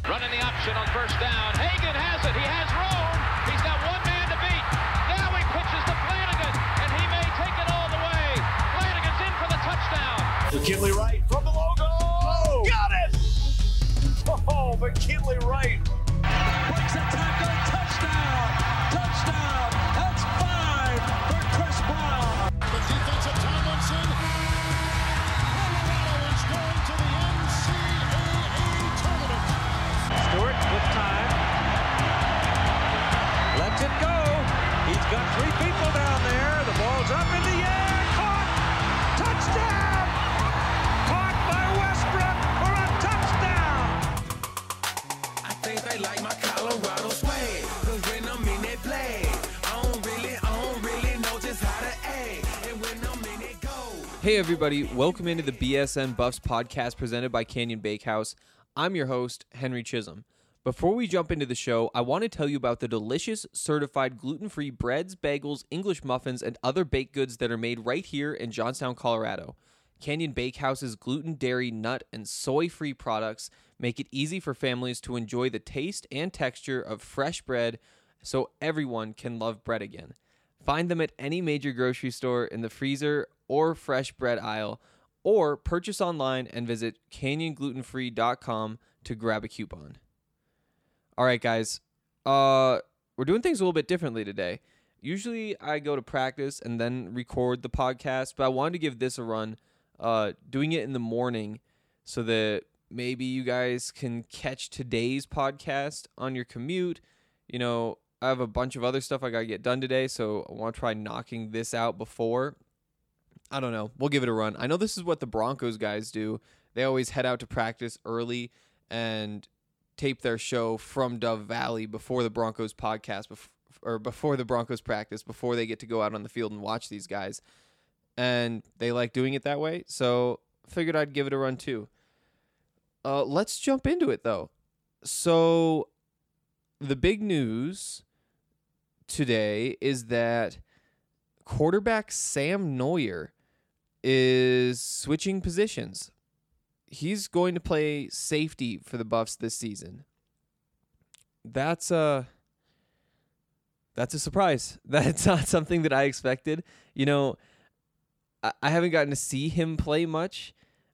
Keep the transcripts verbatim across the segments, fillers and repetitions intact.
Running the option on first down. Hagan has it. He has room. He's got one man to beat. Now he pitches to Flanagan, and he may take it all the way. Flanagan's in for the touchdown. McKinley Wright from the logo. Oh, got it! Oh, McKinley Wright. Breaks a tackle. Touchdown. Touchdown. That's five for Chris Brown. The defensive Tomlinson. Colorado is going to the N C double A tournament. Stewart with time. Lets it go. He's got three people down there. The ball's up in the air. Caught. Touchdown. Caught by Westbrook for a touchdown. I think they like my Colorado swag. Cause when I'm in that play, I don't really, I don't really know just how to act. And when I'm in it, go. Hey everybody, welcome into the B S N Buffs podcast presented by Canyon Bakehouse. I'm your host, Henry Chisholm. Before we jump into the show, I want to tell you about the delicious, certified gluten-free breads, bagels, English muffins, and other baked goods that are made right here in Johnstown, Colorado. Canyon Bakehouse's gluten, dairy, nut, and soy-free products make it easy for families to enjoy the taste and texture of fresh bread so everyone can love bread again. Find them at any major grocery store in the freezer or fresh bread aisle, or purchase online and visit canyon gluten free dot com to grab a coupon. All right, guys, uh, we're doing things a little bit differently today. Usually I go to practice and then record the podcast, but I wanted to give this a run, uh, doing it in the morning so that maybe you guys can catch today's podcast on your commute. You know, I have a bunch of other stuff I got to get done today, so I want to try knocking this out before. I don't know. We'll give it a run. I know this is what the Broncos guys do. They always head out to practice early and tape their show from Dove Valley before the Broncos podcast, bef- or before the Broncos practice, before they get to go out on the field and watch these guys. And they like doing it that way, so figured I'd give it a run too. Uh, let's jump into it, though. So the big news today is that quarterback Sam Noyer is switching positions. He's going to play safety for the Buffs this season. That's a that's a surprise. That's not something that I expected. You know, I, I haven't gotten to see him play much.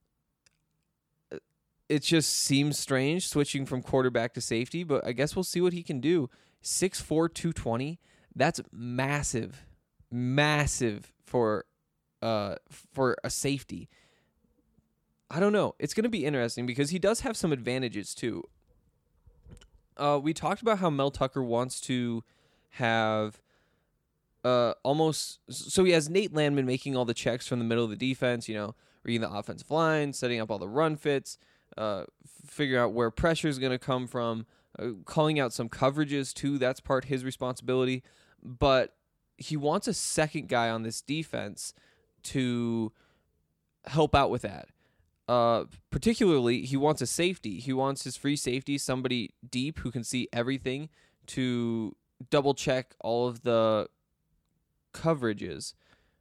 It just seems strange switching from quarterback to safety, but I guess we'll see what he can do. six four, two twenty. That's massive. Massive for uh for a safety. I don't know. It's going to be interesting because he does have some advantages too. Uh, we talked about how Mel Tucker wants to have uh almost so he has Nate Landman making all the checks from the middle of the defense, you know, reading the offensive line, setting up all the run fits, uh figuring out where pressure is going to come from, uh, calling out some coverages too. That's part his responsibility, but he wants a second guy on this defense to help out with that. Uh, particularly, he wants a safety. He wants his free safety, somebody deep who can see everything, to double check all of the coverages.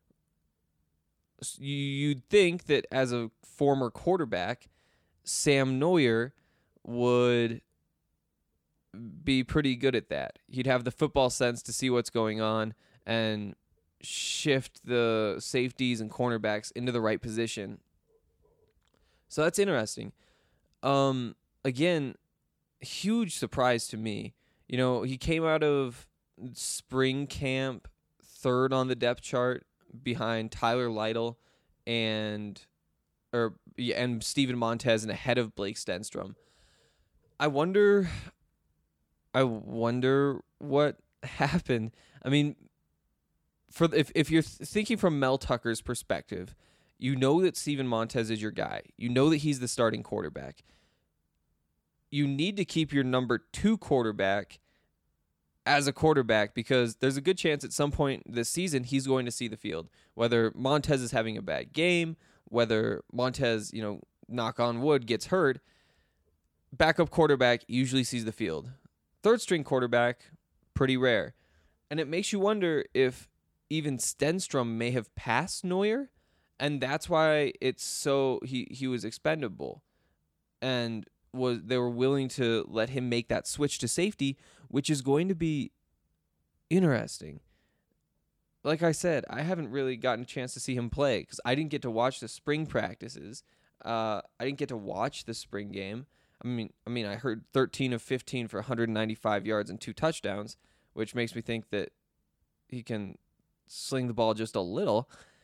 You'd think that as a former quarterback, Sam Noyer would be pretty good at that. He'd have the football sense to see what's going on and shift the safeties and cornerbacks into the right position. So that's interesting. Um, again, huge surprise to me. You know, he came out of spring camp third on the depth chart behind Tyler Lytle and or and Steven Montez and ahead of Blake Stenstrom. I wonder I wonder what happened. I mean, for if if you're thinking from Mel Tucker's perspective, you know that Steven Montez is your guy. You know that he's the starting quarterback. You need to keep your number two quarterback as a quarterback because there's a good chance at some point this season he's going to see the field. Whether Montez is having a bad game, whether Montez, you know, knock on wood, gets hurt, backup quarterback usually sees the field. Third string quarterback, pretty rare. And it makes you wonder if even Stenstrom may have passed Noyer, and that's why it's so he, he was expendable. And was they were willing to let him make that switch to safety, which is going to be interesting. Like I said, I haven't really gotten a chance to see him play because I didn't get to watch the spring practices. Uh, I didn't get to watch the spring game. I mean, I mean, I heard thirteen of fifteen for one hundred ninety-five yards and two touchdowns, which makes me think that he can sling the ball just a little.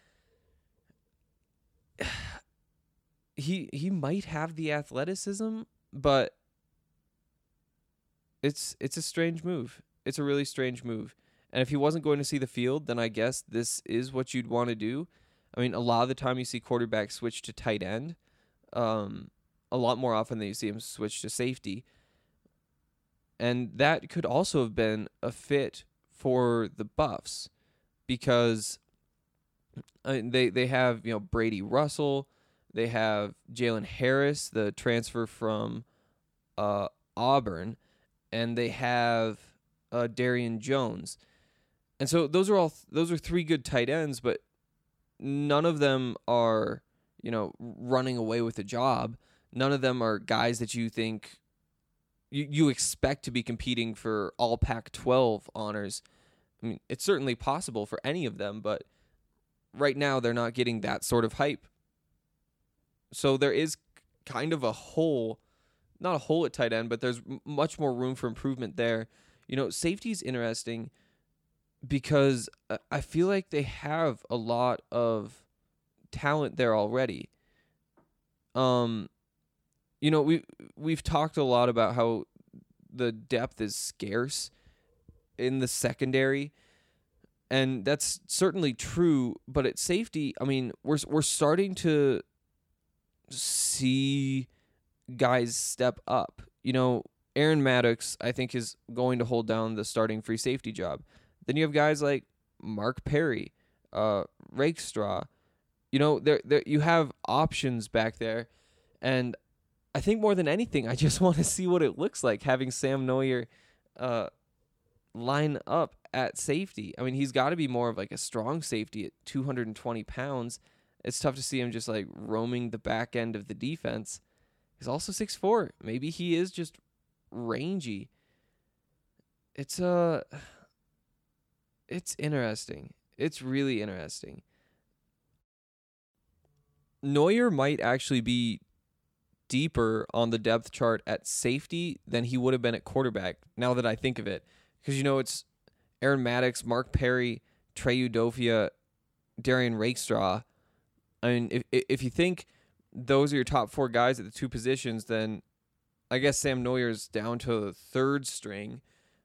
He he might have the athleticism, but it's it's a strange move. It's a really strange move. And if he wasn't going to see the field, then I guess this is what you'd want to do. I mean, a lot of the time you see quarterbacks switch to tight end. Um, a lot more often than you see him switch to safety. And that could also have been a fit for the Buffs because uh, they they have, you know, Brady Russell, they have Jalen Harris, the transfer from uh, Auburn, and they have uh, Darian Jones. And so those are all th- those are three good tight ends, but none of them are, you know, running away with a job. None of them are guys that you think you, you expect to be competing for all Pac twelve honors. I mean, it's certainly possible for any of them, but right now they're not getting that sort of hype. So there is kind of a hole, not a hole at tight end, but there's m- much more room for improvement there. You know, safety is interesting because I feel like they have a lot of talent there already. Um, you know, we we've talked a lot about how the depth is scarce in the secondary, and that's certainly true. But at safety, I mean, we're we're starting to see guys step up. You know, Aaron Maddox, I think, is going to hold down the starting free safety job. Then you have guys like Mark Perry, uh, Rakestraw. You know, there there you have options back there, and I think more than anything, I just want to see what it looks like having Sam Neuer uh, line up at safety. I mean, he's got to be more of like a strong safety at two hundred twenty pounds. It's tough to see him just like roaming the back end of the defense. He's also six foot four. Maybe he is just rangy. It's uh it's interesting. It's really interesting. Neuer might actually be deeper on the depth chart at safety than he would have been at quarterback, now that I think of it. Because, you know, it's Aaron Maddox, Mark Perry, Trey Udofia, Darian Rakestraw. I mean, if if you think those are your top four guys at the two positions, then I guess Sam Neuer's down to the third string.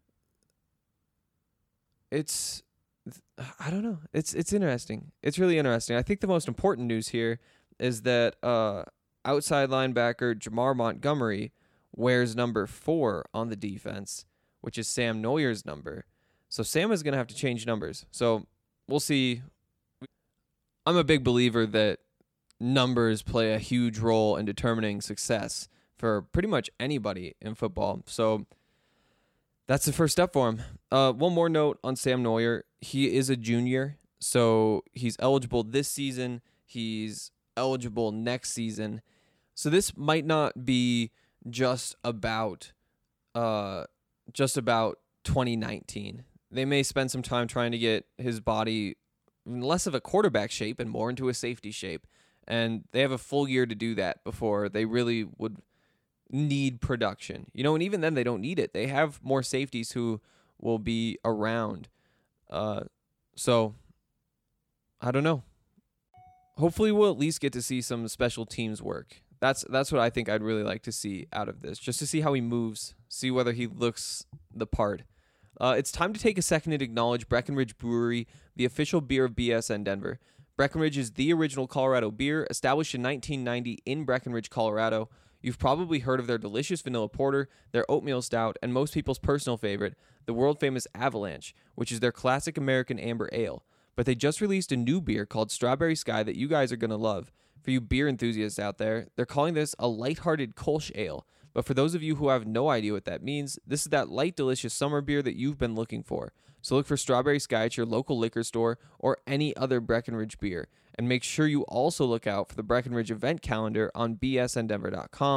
It's, I don't know. It's it's interesting. It's really interesting. I think the most important news here is that uh, outside linebacker Jamar Montgomery wears number four on the defense, which is Sam Neuer's number. So Sam is going to have to change numbers. So we'll see. I'm a big believer that numbers play a huge role in determining success for pretty much anybody in football. So that's the first step for him. Uh, one more note on Sam Neuer. He is a junior, so he's eligible this season. He's eligible next season. So this might not be just about uh, just about twenty nineteen. They may spend some time trying to get his body less of a quarterback shape and more into a safety shape. And they have a full year to do that before they really would need production. You know, and even then they don't need it. They have more safeties who will be around. Uh, so, I don't know. Hopefully we'll at least get to see some special teams work. That's that's what I think I'd really like to see out of this, just to see how he moves, see whether he looks the part. Uh, it's time to take a second and acknowledge Breckenridge Brewery, the official beer of B S N Denver. Breckenridge is the original Colorado beer, established in nineteen ninety in Breckenridge, Colorado. You've probably heard of their delicious vanilla porter, their oatmeal stout, and most people's personal favorite, the world-famous Avalanche, which is their classic American amber ale. But they just released a new beer called Strawberry Sky that you guys are going to love. For you beer enthusiasts out there, they're calling this a lighthearted Kolsch ale. But for those of you who have no idea what that means, this is that light, delicious summer beer that you've been looking for. So look for Strawberry Sky at your local liquor store or any other Breckenridge beer. And make sure you also look out for the Breckenridge event calendar on b s n denver dot com.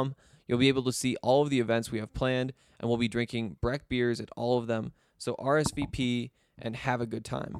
You'll be able to see all of the events we have planned, and we'll be drinking Breck beers at all of them. So R S V P and have a good time.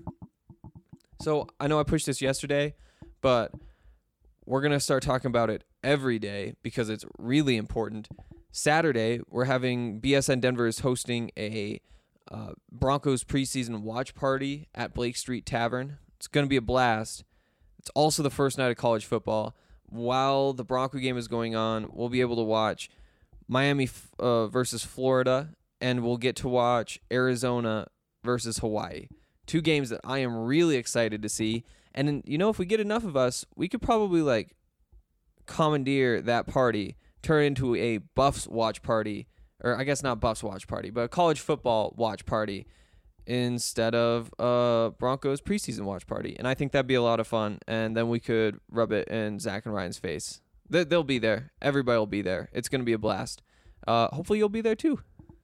So I know I pushed this yesterday, but we're going to start talking about it every day because it's really important. Saturday, we're having B S N Denver is hosting a uh, Broncos preseason watch party at Blake Street Tavern. It's going to be a blast. It's also the first night of college football. While the Bronco game is going on, we'll be able to watch Miami uh, versus Florida, and we'll get to watch Arizona versus Hawaii. Two games that I am really excited to see. And, you know, if we get enough of us, we could probably, like, commandeer that party, turn it into a Buffs watch party, or I guess not Buffs watch party, but a college football watch party instead of a Broncos preseason watch party. And I think that'd be a lot of fun. And then we could rub it in Zach and Ryan's face. They- They'll be there. Everybody will be there. It's going to be a blast. Uh, hopefully you'll be there too.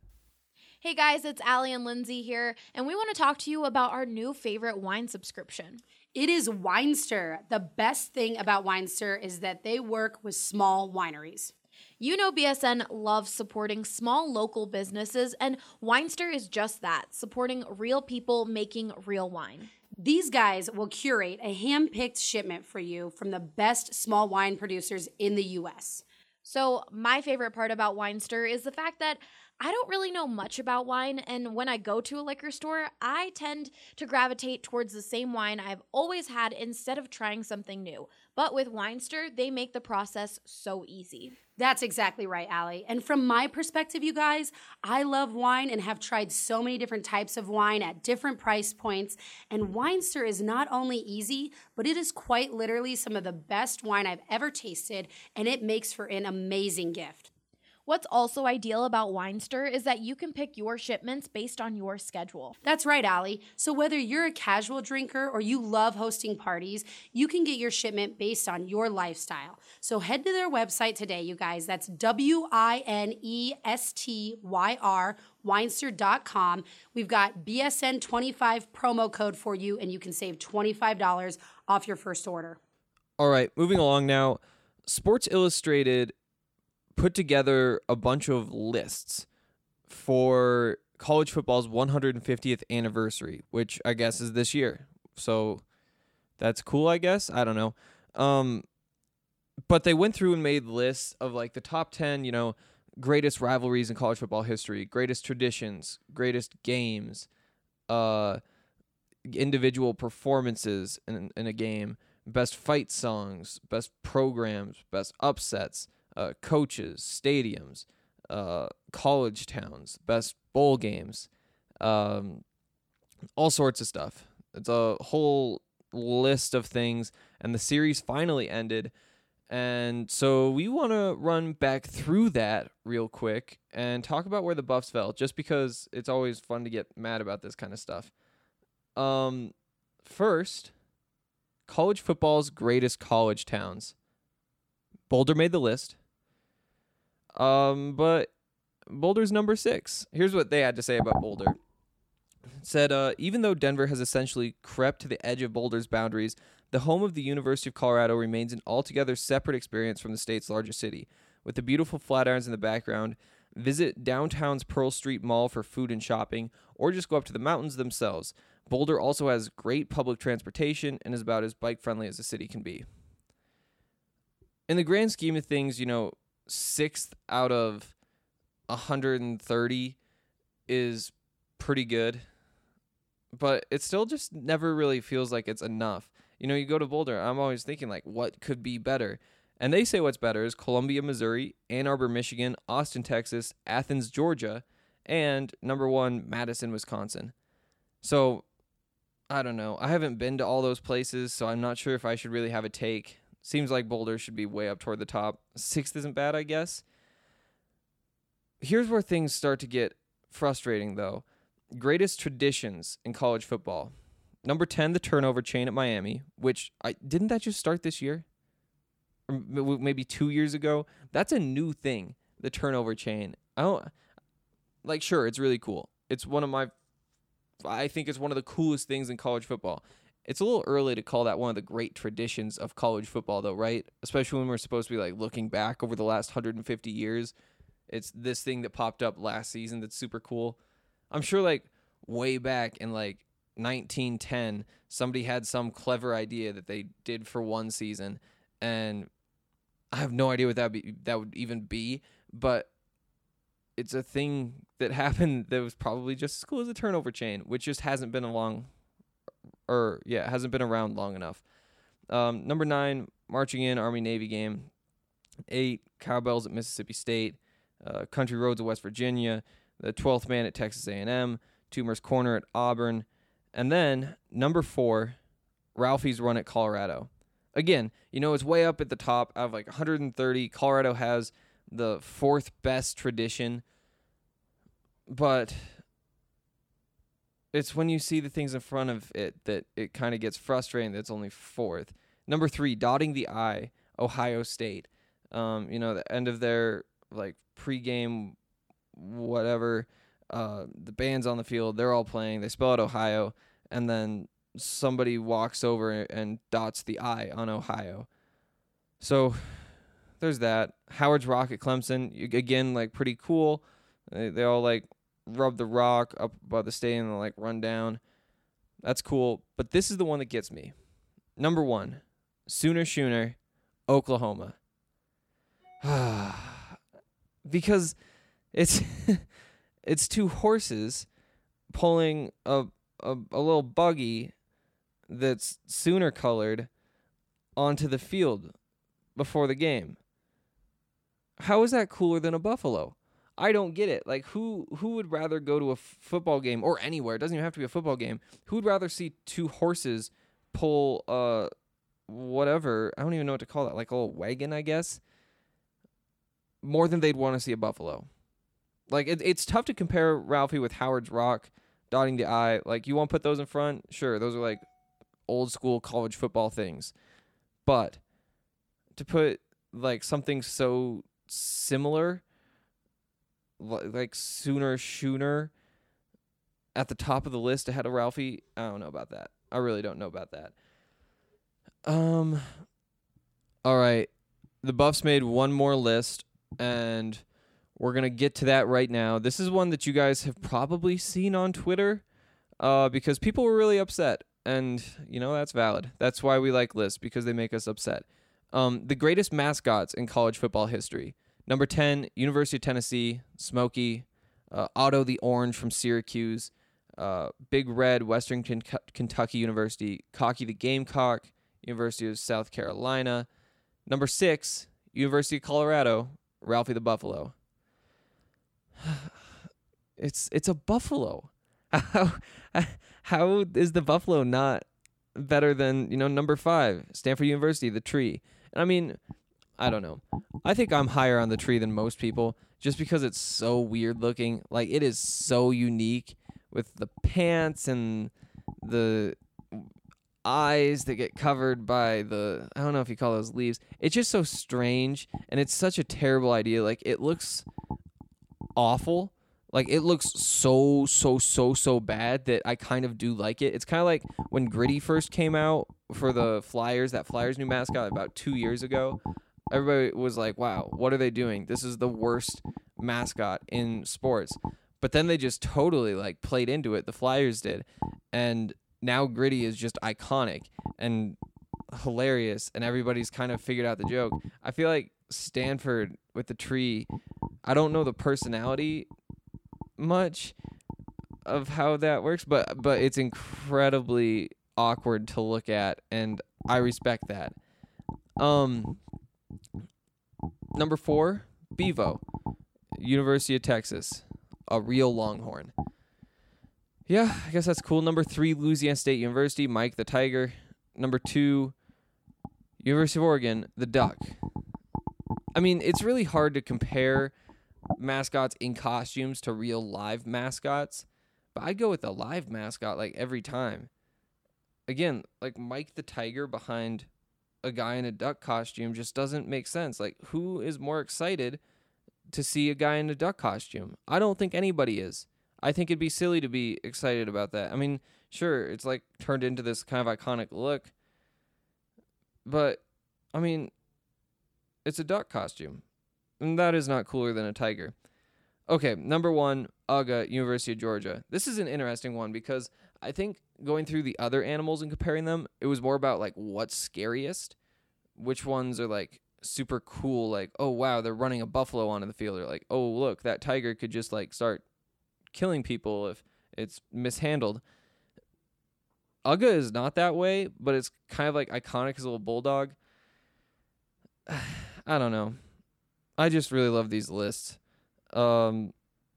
Hey guys, it's Allie and Lindsay here, and we want to talk to you about our new favorite wine subscription. It is Winester. The best thing about Winester is that they work with small wineries. You know B S N loves supporting small local businesses, and Winester is just that, supporting real people making real wine. These guys will curate a hand-picked shipment for you from the best small wine producers in the U S. So my favorite part about Winester is the fact that I don't really know much about wine, and when I go to a liquor store, I tend to gravitate towards the same wine I've always had instead of trying something new. But with Winester, they make the process so easy. That's exactly right, Allie. And from my perspective, you guys, I love wine and have tried so many different types of wine at different price points. And Winester is not only easy, but it is quite literally some of the best wine I've ever tasted, and it makes for an amazing gift. What's also ideal about Winester is that you can pick your shipments based on your schedule. That's right, Allie. So whether you're a casual drinker or you love hosting parties, you can get your shipment based on your lifestyle. So head to their website today, you guys. That's W I N E S T Y R, Winester dot com. We've got B S N twenty-five promo code for you, and you can save twenty-five dollars off your first order. All right, moving along now. Sports Illustrated put together a bunch of lists for college football's one hundred fiftieth anniversary, which I guess is this year. So that's cool, I guess. I don't know. Um, but they went through and made lists of like the top ten, you know, greatest rivalries in college football history, greatest traditions, greatest games, uh, individual performances in, in a game, best fight songs, best programs, best upsets, Uh, coaches, stadiums, uh, college towns, best bowl games, um, all sorts of stuff. It's a whole list of things, and the series finally ended. And so we want to run back through that real quick and talk about where the Buffs fell, just because it's always fun to get mad about this kind of stuff. Um, first, college football's greatest college towns. Boulder made the list. Um, but Boulder's number six. Here's what they had to say about Boulder. It said, uh, even though Denver has essentially crept to the edge of Boulder's boundaries, the home of the University of Colorado remains an altogether separate experience from the state's largest city. With the beautiful Flatirons in the background, visit downtown's Pearl Street Mall for food and shopping, or just go up to the mountains themselves. Boulder also has great public transportation and is about as bike-friendly as a city can be. In the grand scheme of things, you know, sixth out of one hundred thirty is pretty good, but it still just never really feels like it's enough. You know, you go to Boulder, I'm always thinking, like, what could be better? And they say what's better is Columbia, Missouri, Ann Arbor, Michigan, Austin, Texas, Athens, Georgia, and number one, Madison, Wisconsin. So, I don't know. I haven't been to all those places, so I'm not sure if I should really have a take. Seems like Boulder should be way up toward the top. Sixth isn't bad, I guess. Here's where things start to get frustrating, though. Greatest traditions in college football. Number ten, the turnover chain at Miami, which I didn't that just start this year? Or maybe two years ago? That's a new thing, the turnover chain. I don't, like, sure, it's really cool. It's one of my, I think it's one of the coolest things in college football. It's a little early to call that one of the great traditions of college football, though, right? Especially when we're supposed to be like looking back over the last one hundred fifty years. It's this thing that popped up last season that's super cool. I'm sure like way back in like nineteen ten, somebody had some clever idea that they did for one season, and I have no idea what that be that would even be, but it's a thing that happened that was probably just as cool as the turnover chain, which just hasn't been along, or yeah, hasn't been around long enough. Um, number nine, marching in Army Navy game. Eight, cowbells at Mississippi State. Uh, country roads at West Virginia. The twelfth man at Texas A and M. Toomer's Corner at Auburn. And then number four, Ralphie's Run at Colorado. Again, you know, it's way up at the top out of like one hundred thirty. Colorado has the fourth best tradition, but it's when you see the things in front of it that it kind of gets frustrating that it's only fourth. Number three, dotting the I, Ohio State. Um, you know, the end of their like pregame, whatever. Uh, the band's on the field. They're all playing. They spell out Ohio, and then somebody walks over and dots the I on Ohio. So there's that. Howard's Rock at Clemson, you, again, like pretty cool. They, they all like rub the rock up above the stadium and like run down. That's cool. But this is the one that gets me. Number one, Sooner Schooner, Oklahoma. Because it's it's two horses pulling a, a a little buggy that's Sooner colored onto the field before the game. How is that cooler than a buffalo? I don't get it. Like, who who would rather go to a f- football game or anywhere? It doesn't even have to be a football game. Who would rather see two horses pull uh whatever? I don't even know what to call that. Like a little wagon, I guess. More than they'd want to see a buffalo. Like, it, it's tough to compare Ralphie with Howard's Rock, dotting the I. Like, you want to put those in front? Sure, those are like old school college football things. But to put like something so similar, like Sooner Schooner, at the top of the list ahead of Ralphie, I don't know about that. I really don't know about that. Um. All right, the Buffs made one more list, and we're gonna get to that right now. This is one that you guys have probably seen on Twitter, uh, because people were really upset, and you know that's valid. That's why we like lists, because they make us upset. Um, the greatest mascots in college football history. Number ten, University of Tennessee, Smokey. Uh, Otto the Orange from Syracuse. Uh, Big Red, Western Ken- Kentucky University. Cocky the Gamecock, University of South Carolina. Number six, University of Colorado, Ralphie the Buffalo. It's it's a buffalo. How how is the buffalo not better than, you know, number five, Stanford University, the tree? And I mean, I don't know. I think I'm higher on the tree than most people just because it's so weird looking. Like, it is so unique with the pants and the eyes that get covered by the, I don't know if you call those leaves. It's just so strange, and it's such a terrible idea. Like, it looks awful. Like, it looks so, so, so, so bad that I kind of do like it. It's kind of like when Gritty first came out for the Flyers, that Flyers new mascot about two years ago. Everybody was like, wow, what are they doing? This is the worst mascot in sports. But then they just totally, like, played into it. The Flyers did. And now Gritty is just iconic and hilarious, and everybody's kind of figured out the joke. I feel like Stanford with the tree, I don't know the personality much of how that works, but but it's incredibly awkward to look at, and I respect that. Um, number four, Bevo, University of Texas, a real Longhorn. Yeah, I guess that's cool. Number three, Louisiana State University, Mike the Tiger. Number two, University of Oregon, the Duck. I mean, it's really hard to compare mascots in costumes to real live mascots, but I go with a live mascot like every time. Again, like Mike the Tiger behind a guy in a duck costume just doesn't make sense. Like, who is more excited to see a guy in a duck costume? I don't think anybody is. I think it'd be silly to be excited about that. I mean, sure, it's like turned into this kind of iconic look, but I mean, it's a duck costume, and that is not cooler than a tiger. Okay, number one, U G A, University of Georgia. This is an interesting one because I think going through the other animals and comparing them, it was more about like what's scariest, which ones are like super cool, like, oh wow, they're running a buffalo onto the field, or like, oh look, that tiger could just like start killing people if it's mishandled. U G A is not that way, but it's kind of like iconic as a little bulldog. I don't know. I just really love these lists. Um,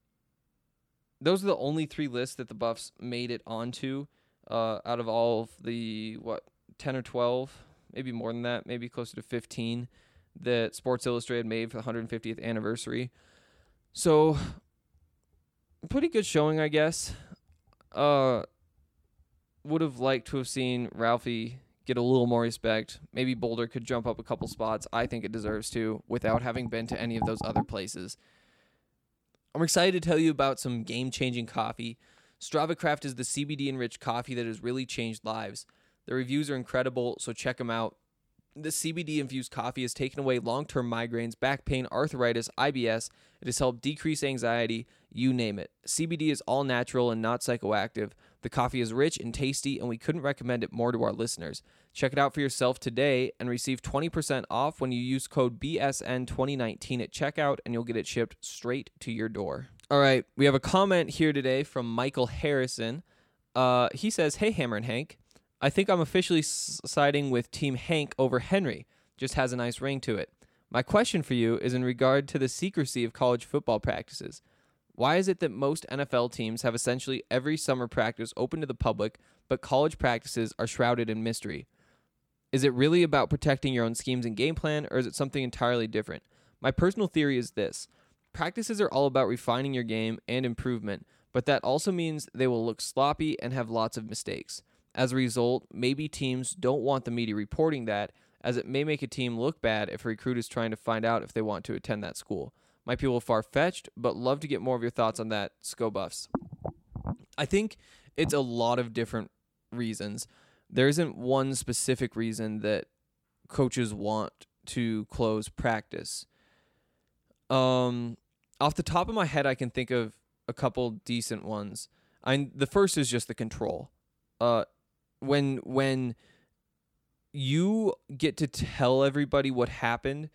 those are the only three lists that the Buffs made it onto uh, out of all of the, what, ten or twelve, maybe more than that, maybe closer to fifteen that Sports Illustrated made for the one hundred fiftieth anniversary. So, pretty good showing, I guess. Uh, would have liked to have seen Ralphie get a little more respect. Maybe Boulder could jump up a couple spots. I think it deserves to, without having been to any of those other places. I'm excited to tell you about some game-changing coffee. Strava Craft is the C B D-enriched coffee that has really changed lives. The reviews are incredible, so check them out. The C B D-infused coffee has taken away long-term migraines, back pain, arthritis, I B S. It has helped decrease anxiety, you name it. C B D is all natural and not psychoactive. The coffee is rich and tasty, and we couldn't recommend it more to our listeners. Check it out for yourself today and receive twenty percent off when you use code B S N twenty nineteen at checkout, and you'll get it shipped straight to your door. All right, we have a comment here today from Michael Harrison. Uh, he says, "Hey, Hammer and Hank. I think I'm officially s- siding with Team Hank over Henry. Just has a nice ring to it. My question for you is in regard to the secrecy of college football practices. Why is it that most N F L teams have essentially every summer practice open to the public, but college practices are shrouded in mystery? Is it really about protecting your own schemes and game plan, or is it something entirely different? My personal theory is this. Practices are all about refining your game and improvement, but that also means they will look sloppy and have lots of mistakes. As a result, maybe teams don't want the media reporting that, as it may make a team look bad if a recruit is trying to find out if they want to attend that school. Might be a little far-fetched, but love to get more of your thoughts on that, Sco Buffs." I think it's a lot of different reasons. There isn't one specific reason that coaches want to close practice. Um, off the top of my head, I can think of a couple decent ones. I the first is just the control. Uh, when when you get to tell everybody what happened,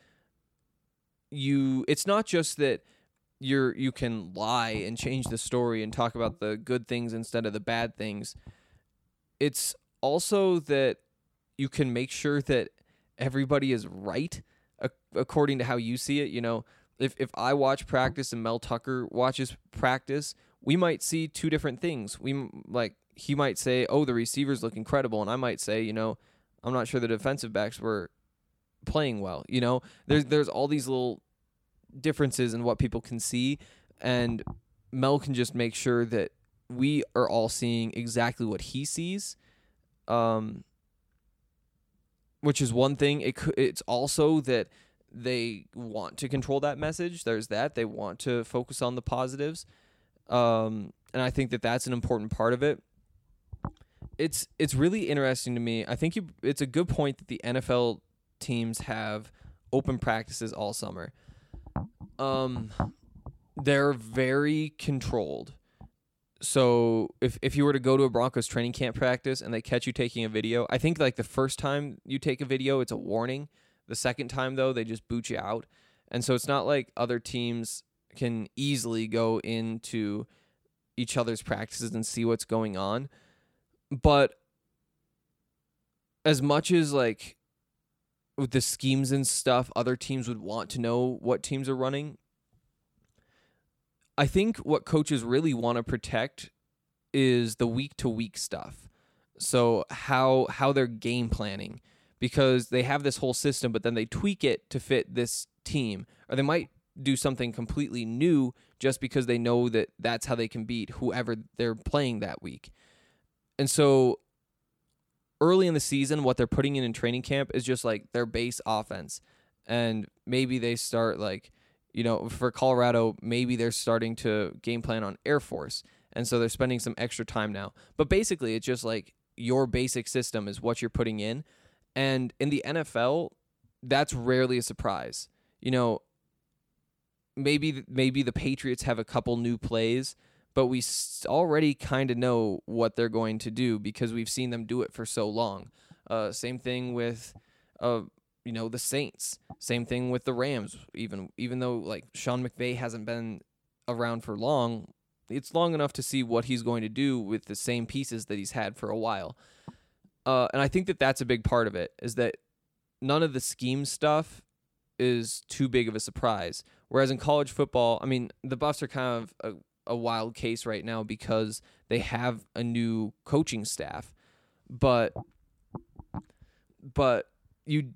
you it's not just that you're you can lie and change the story and talk about the good things instead of the bad things. It's also that you can make sure that everybody is right ac- according to how you see it. You know, if if I watch practice and Mel Tucker watches practice, we might see two different things. We like he might say, "Oh, the receivers look incredible," and I might say, "You know, I'm not sure the defensive backs were playing well." You know, there's there's all these little differences in what people can see, and Mel can just make sure that we are all seeing exactly what he sees, um, which is one thing. It it's also that they want to control that message. There's that. They want to focus on the positives, um, and I think that that's an important part of it. It's it's really interesting to me. I think you, it's a good point that the N F L teams have open practices all summer. Um, they're very controlled. So if if you were to go to a Broncos training camp practice and they catch you taking a video, I think like the first time you take a video, it's a warning. The second time, though, they just boot you out. And so it's not like other teams can easily go into each other's practices and see what's going on. But as much as like with the schemes and stuff, other teams would want to know what teams are running, I think what coaches really want to protect is the week-to-week stuff. So how how they're game planning, because they have this whole system, but then they tweak it to fit this team, or they might do something completely new just because they know that that's how they can beat whoever they're playing that week. And so early in the season, what they're putting in in training camp is just like their base offense. And maybe they start like, you know, for Colorado, maybe they're starting to game plan on Air Force. And so they're spending some extra time now. But basically, it's just like your basic system is what you're putting in. And in the N F L, that's rarely a surprise. You know, maybe maybe the Patriots have a couple new plays, but we already kind of know what they're going to do because we've seen them do it for so long. Uh, same thing with, uh, you know, the Saints. Same thing with the Rams. Even even though like Sean McVay hasn't been around for long, it's long enough to see what he's going to do with the same pieces that he's had for a while. Uh, and I think that that's a big part of it, is that none of the scheme stuff is too big of a surprise. Whereas in college football, I mean, the Buffs are kind of a, a wild case right now because they have a new coaching staff, but but you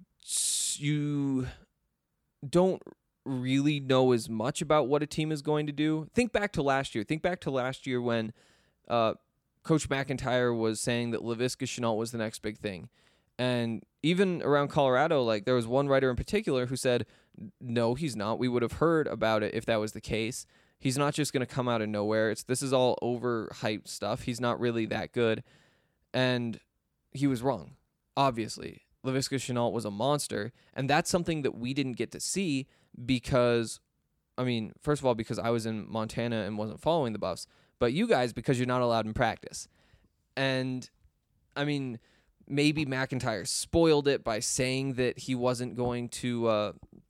you don't really know as much about what a team is going to do. Think back to last year. Think back to last year when uh, Coach McIntyre was saying that Laviska Shenault was the next big thing. And even around Colorado, like there was one writer in particular who said, no, he's not. We would have heard about it if that was the case. He's not just going to come out of nowhere. It's this is all overhyped stuff. He's not really that good. And he was wrong, obviously. Laviska Shenault was a monster, and that's something that we didn't get to see because, I mean, first of all, because I was in Montana and wasn't following the Buffs, but you guys, because you're not allowed in practice. And, I mean, maybe McIntyre spoiled it by saying that he wasn't going to uh,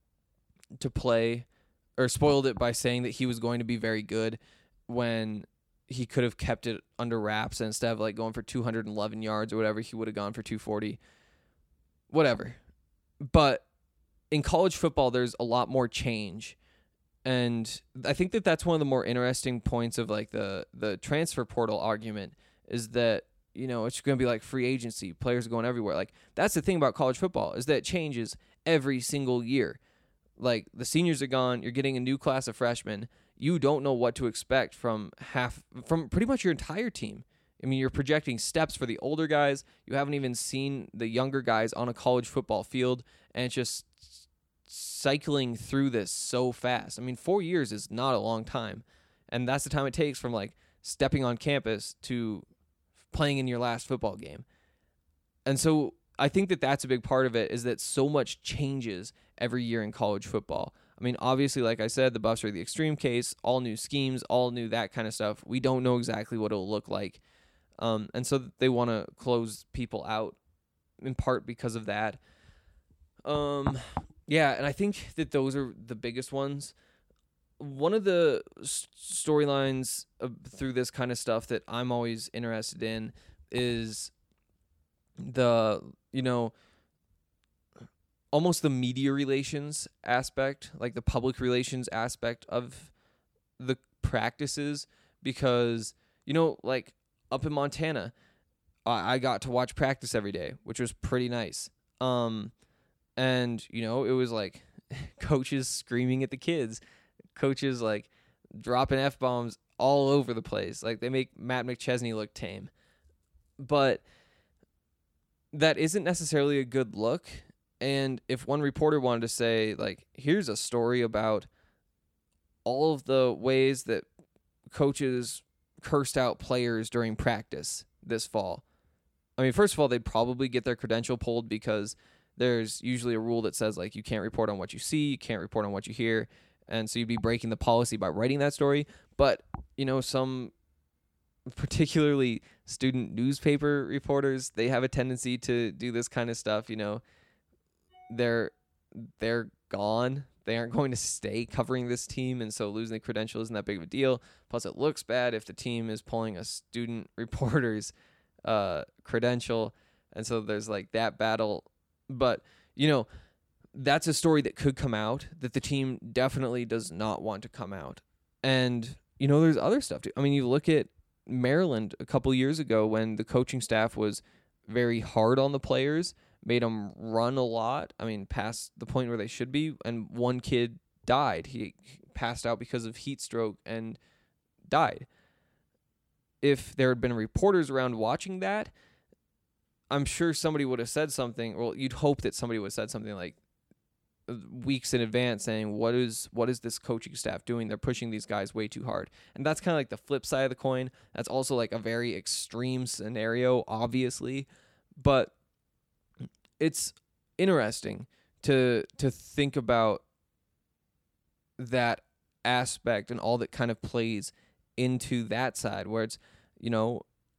to play, or spoiled it by saying that he was going to be very good when he could have kept it under wraps, and instead of like going for two hundred eleven yards or whatever, he would have gone for two forty. Whatever. But in college football, there's a lot more change. And I think that that's one of the more interesting points of like the, the transfer portal argument is that, you know, it's going to be like free agency. Players are going everywhere. Like that's the thing about college football is that it changes every single year. Like the seniors are gone. You're getting a new class of freshmen. You don't know what to expect from half, from pretty much your entire team. I mean, you're projecting steps for the older guys. You haven't even seen the younger guys on a college football field, and it's just cycling through this so fast. I mean, four years is not a long time, and that's the time it takes from, like, stepping on campus to playing in your last football game. And so I think that that's a big part of it is that so much changes every year in college football. I mean, obviously, like I said, the Buffs are the extreme case, all new schemes, all new that kind of stuff. We don't know exactly what it'll look like. Um, and so they want to close people out in part because of that. Um, yeah, and I think that those are the biggest ones. One of the s- storylines uh, through this kind of stuff that I'm always interested in is the, you know, almost the media relations aspect, like the public relations aspect of the practices, because, you know, like, up in Montana, I got to watch practice every day, which was pretty nice. Um, and, you know, it was like coaches screaming at the kids, coaches like dropping F-bombs all over the place. Like they make Matt McChesney look tame. But that isn't necessarily a good look. And if one reporter wanted to say, like, here's a story about all of the ways that coaches cursed out players during practice this fall. I mean, first of all, they'd probably get their credential pulled because there's usually a rule that says, like, you can't report on what you see, you can't report on what you hear, and so you'd be breaking the policy by writing that story. But, you know, some particularly student newspaper reporters, they have a tendency to do this kind of stuff, you know. They're they're gone. They aren't going to stay covering this team, and so losing the credential isn't that big of a deal. Plus, it looks bad if the team is pulling a student reporter's uh, credential, and so there's like that battle. But, you know, that's a story that could come out that the team definitely does not want to come out. And, you know, there's other stuff too. I mean, you look at Maryland a couple years ago when the coaching staff was very hard on the players, made them run a lot. I mean, past the point where they should be. And one kid died. He passed out because of heat stroke and died. If there had been reporters around watching that, I'm sure somebody would have said something. Well, you'd hope that somebody would have said something like, weeks in advance saying, what is what is this coaching staff doing? They're pushing these guys way too hard. And that's kind of like the flip side of the coin. That's also like a very extreme scenario, obviously. But it's interesting to to think about that aspect and all that kind of plays into that side where it's, you know,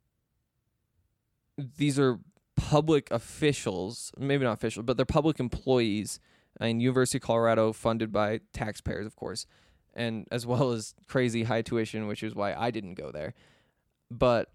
these are public officials, maybe not official, but they're public employees. I mean, University of Colorado, funded by taxpayers, of course, and as well as crazy high tuition, which is why I didn't go there. But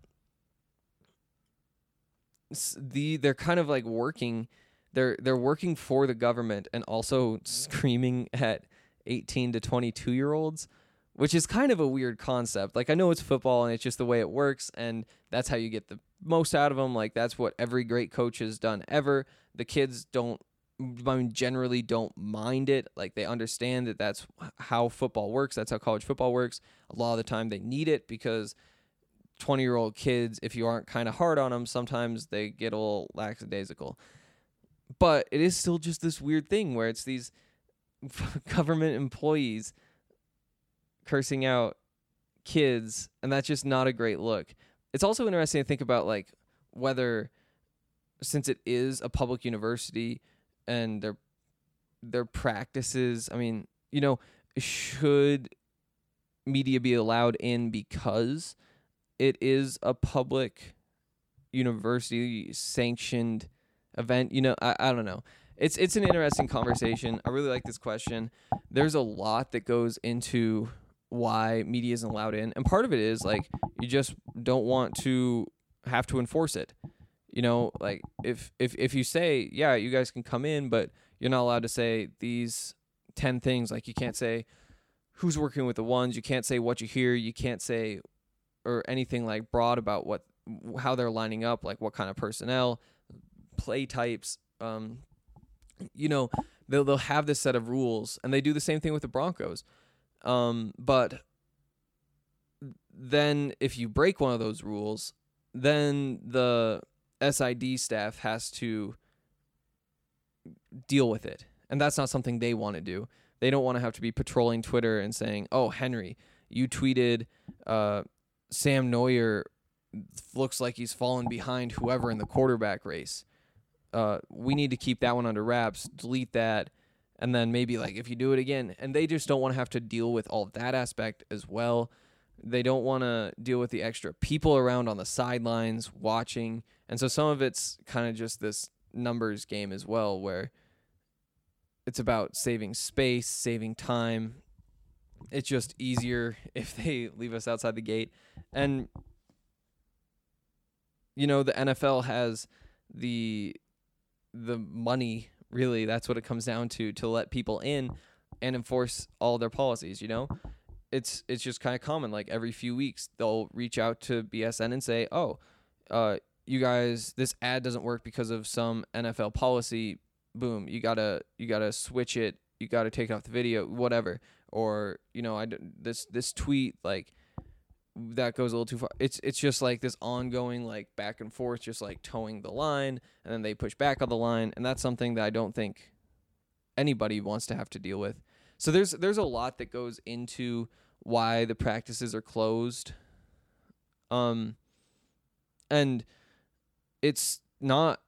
the they're kind of like working, they're they're working for the government and also screaming at eighteen to twenty-two year olds, which is kind of a weird concept. Like, I know it's football and it's just the way it works, and that's how you get the most out of them. Like, that's what every great coach has done ever. The kids don't, I mean, generally don't mind it. Like, they understand that that's how football works. That's how college football works. A lot of the time they need it because twenty-year-old kids, if you aren't kind of hard on them, sometimes they get a little lackadaisical. But it is still just this weird thing where it's these government employees cursing out kids, and that's just not a great look. It's also interesting to think about, like, whether, since it is a public university and their their practices, I mean, you know, should media be allowed in because it is a public university sanctioned event? You know, I, I don't know. It's it's an interesting conversation. I really like this question. There's a lot that goes into why media isn't allowed in, and part of it is like you just don't want to have to enforce it. You know, like if if if you say, yeah, you guys can come in, but you're not allowed to say these ten things. Like, you can't say who's working with the ones, you can't say what you hear, you can't say or anything like broad about what how they're lining up, like what kind of personnel, play types. Um, you know, they'll they'll have this set of rules, and they do the same thing with the Broncos. Um, but then if you break one of those rules, then the S I D staff has to deal with it. And that's not something they want to do. They don't want to have to be patrolling Twitter and saying, oh, Henry, you tweeted uh, Sam Neuer looks like he's fallen behind whoever in the quarterback race. Uh, we need to keep that one under wraps, delete that. And then maybe, like, if you do it again, and they just don't want to have to deal with all of that aspect as well. They don't want to deal with the extra people around on the sidelines watching. And so some of it's kind of just this numbers game as well, where it's about saving space, saving time. It's just easier if they leave us outside the gate. And, you know, the N F L has the the money. Really, that's what it comes down to, to let people in and enforce all their policies, you know? It's it's just kind of common. Like, every few weeks, they'll reach out to B S N and say, oh, uh, you guys, this ad doesn't work because of some N F L policy. Boom, you gotta you gotta switch it. You gotta take it off the video, whatever. Or, you know, I, this, this tweet, like, that goes a little too far. It's it's just like this ongoing, like, back and forth, just like towing the line, and then they push back on the line, and that's something that I don't think anybody wants to have to deal with. So there's there's a lot that goes into why the practices are closed. Um and it's not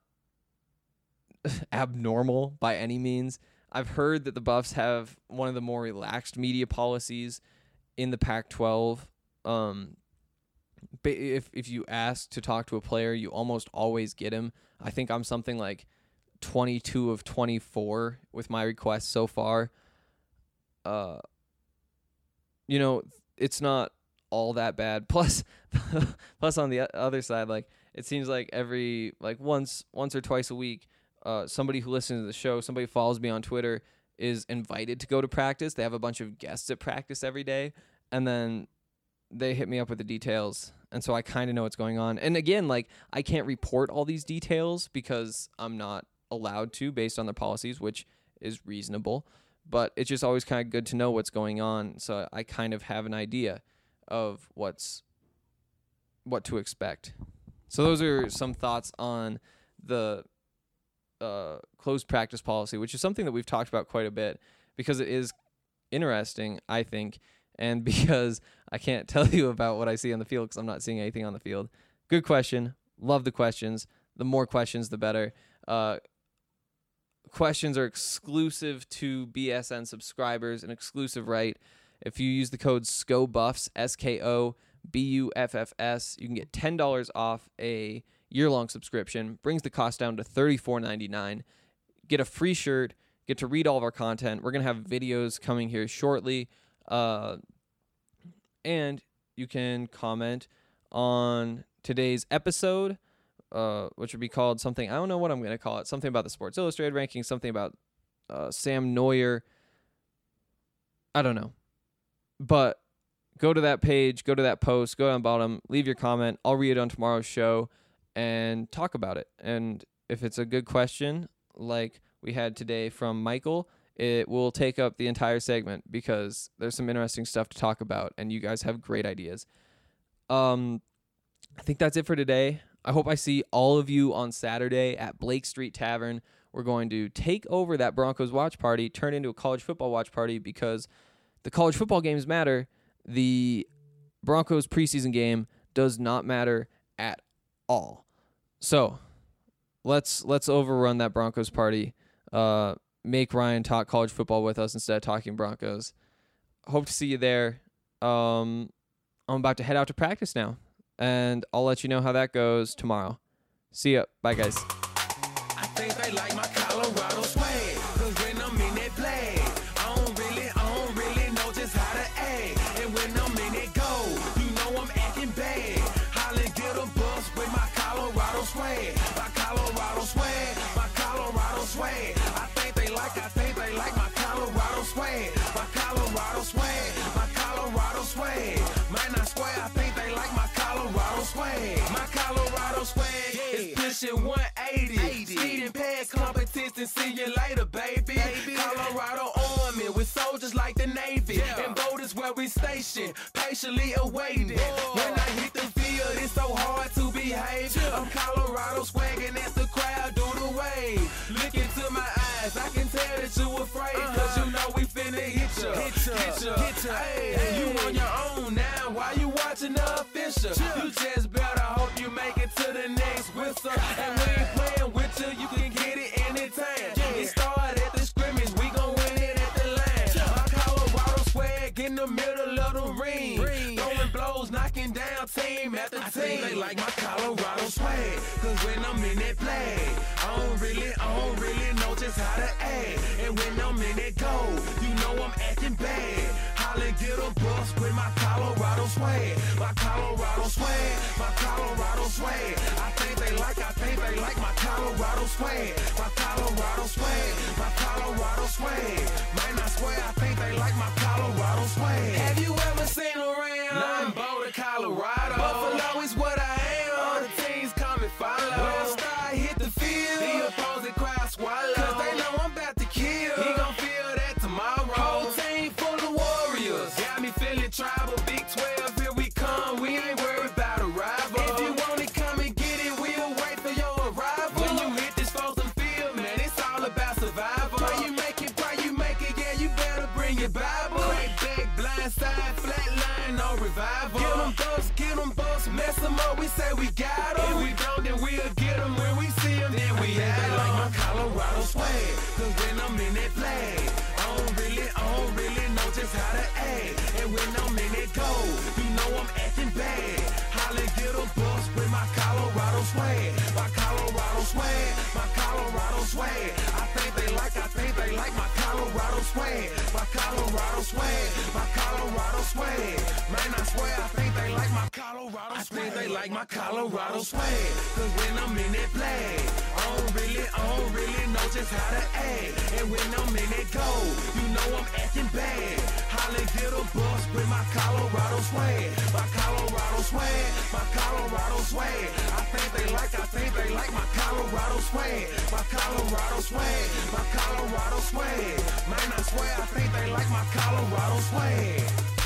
abnormal by any means. I've heard that the Buffs have one of the more relaxed media policies in the Pac twelve. Um, if if you ask to talk to a player, you almost always get him. I think I'm something like twenty-two of twenty-four with my requests so far. Uh, you know, it's not all that bad. Plus, plus on the other side, like, it seems like every like once once or twice a week, uh, somebody who listens to the show, somebody who follows me on Twitter, is invited to go to practice. They have a bunch of guests at practice every day, and then they hit me up with the details, and so I kind of know what's going on. And again, like, I can't report all these details because I'm not allowed to based on their policies, which is reasonable. But it's just always kind of good to know what's going on, so I kind of have an idea of what's what to expect. So those are some thoughts on the uh, closed practice policy, which is something that we've talked about quite a bit because it is interesting, I think, and because I can't tell you about what I see on the field because I'm not seeing anything on the field. Good question. Love the questions. The more questions, the better. Uh, questions are exclusive to B S N subscribers, an exclusive right. If you use the code SCOBUFFS, S K O B U F F S, you can get ten dollars off a year-long subscription. Brings the cost down to thirty-four ninety-nine. Get a free shirt. Get to read all of our content. We're going to have videos coming here shortly. Uh, and you can comment on today's episode, uh, which would be called something, I don't know what I'm going to call it, something about the Sports Illustrated rankings, something about uh, Sam Neuer. I don't know. But go to that page, go to that post, go down the bottom, leave your comment. I'll read it on tomorrow's show and talk about it. And if it's a good question, like we had today from Michael, it will take up the entire segment because there's some interesting stuff to talk about, and you guys have great ideas. Um, I think that's it for today. I hope I see all of you on Saturday at Blake Street Tavern. We're going to take over that Broncos watch party, turn it into a college football watch party because the college football games matter. The Broncos preseason game does not matter at all. So let's let's overrun that Broncos party. Uh, make Ryan talk college football with us instead of talking Broncos. Hope to see you there. Um, I'm about to head out to practice now, and I'll let you know how that goes tomorrow. See ya. Bye, guys. I think they like my Colorado swag, 'cause when I'm in that flag, I don't really, I don't really know just how to act. And when I'm in that goal, you know I'm acting bad. Holly get a bus with my Colorado swag, my Colorado swag, my Colorado swag. I think they like, I think they like my Colorado swag, my Colorado swag, my Colorado swag. Might not swear, I think they like my Colorado swag, my Colorado swag is pushing one eighty. Speeding past competition, see you later, baby. baby. Colorado Army with soldiers like the Navy. Yeah. And boat is where we station, patiently awaiting. Whoa. When I hit the field, it's so hard to behave. Yeah. I'm Colorado swagging as the crowd do the wave. Look into my eyes, I can tell that you afraid. Uh-huh. Cause you know we finna hit ya, hit ya, hit ya, hit ya. Hey, hey. You on your own now, why you watching the official? Yeah. You just better hope you make it to the next whistle. And we ain't playing with you, you can get it anytime. Yeah. It started at the scrimmage, we gon' win it at the line. Yeah. My Colorado swag in the middle of the ring. ring. Throwing blows, knocking down team after I team. They like my Colorado swag, 'cause when I'm in that flag, I don't really, I don't really know just how to act. And when I'm in that goal, you know I'm acting bad. Holly get a bus with my Colorado swag, my Colorado swag, my Colorado swag. I think they like, I think they like my Colorado swag, my Colorado swag, my Colorado swag. Might not swear, I think they like my Colorado swag. Have you ever seen around? Nah, I'm Boulder, Colorado. Buffalo is what I am. All the teams come and follow. When I start hit the field, the opposing crowd swallow. 'Cause they know I'm about to kill. He gon' feel that tomorrow. Whole team full of warriors. Got me feeling tribal. Big twelve, here we come. We ain't worried about a rival. If you want it, come and get it. We'll wait for your arrival. When you hit this frozen field, man, it's all about survival. Pray you make it, pray you make it. Yeah, you better bring your Bible. Crack back, blind side, flat line, no revival. Get them busts, get them busts, mess them up. We say we got them. If we don't, then we'll get them. When we see them, then we have them. They like my Colorado swag, 'cause when I'm in that flag, I don't really, I don't really know just how to act. And when I'm in that goal, you know I'm acting bad. Holly get a bus with my Colorado swag, my Colorado swag, my Colorado swag. I think they like, I think they like my Colorado swag, my Colorado swag, my Colorado swag. Man, I swear, I think they like my Colorado swag. I think they like my Colorado swag, 'cause when I'm in that flag, I don't really, I don't really know just how to act. And when I'm in that goal, you know I'm acting bad. Holly get a bus with my Colorado swag, my Colorado swag, my Colorado swag. I think they like, I think they like my Colorado swag, my Colorado swag, my Colorado swag. Man, I swear, I think they like my Colorado swag.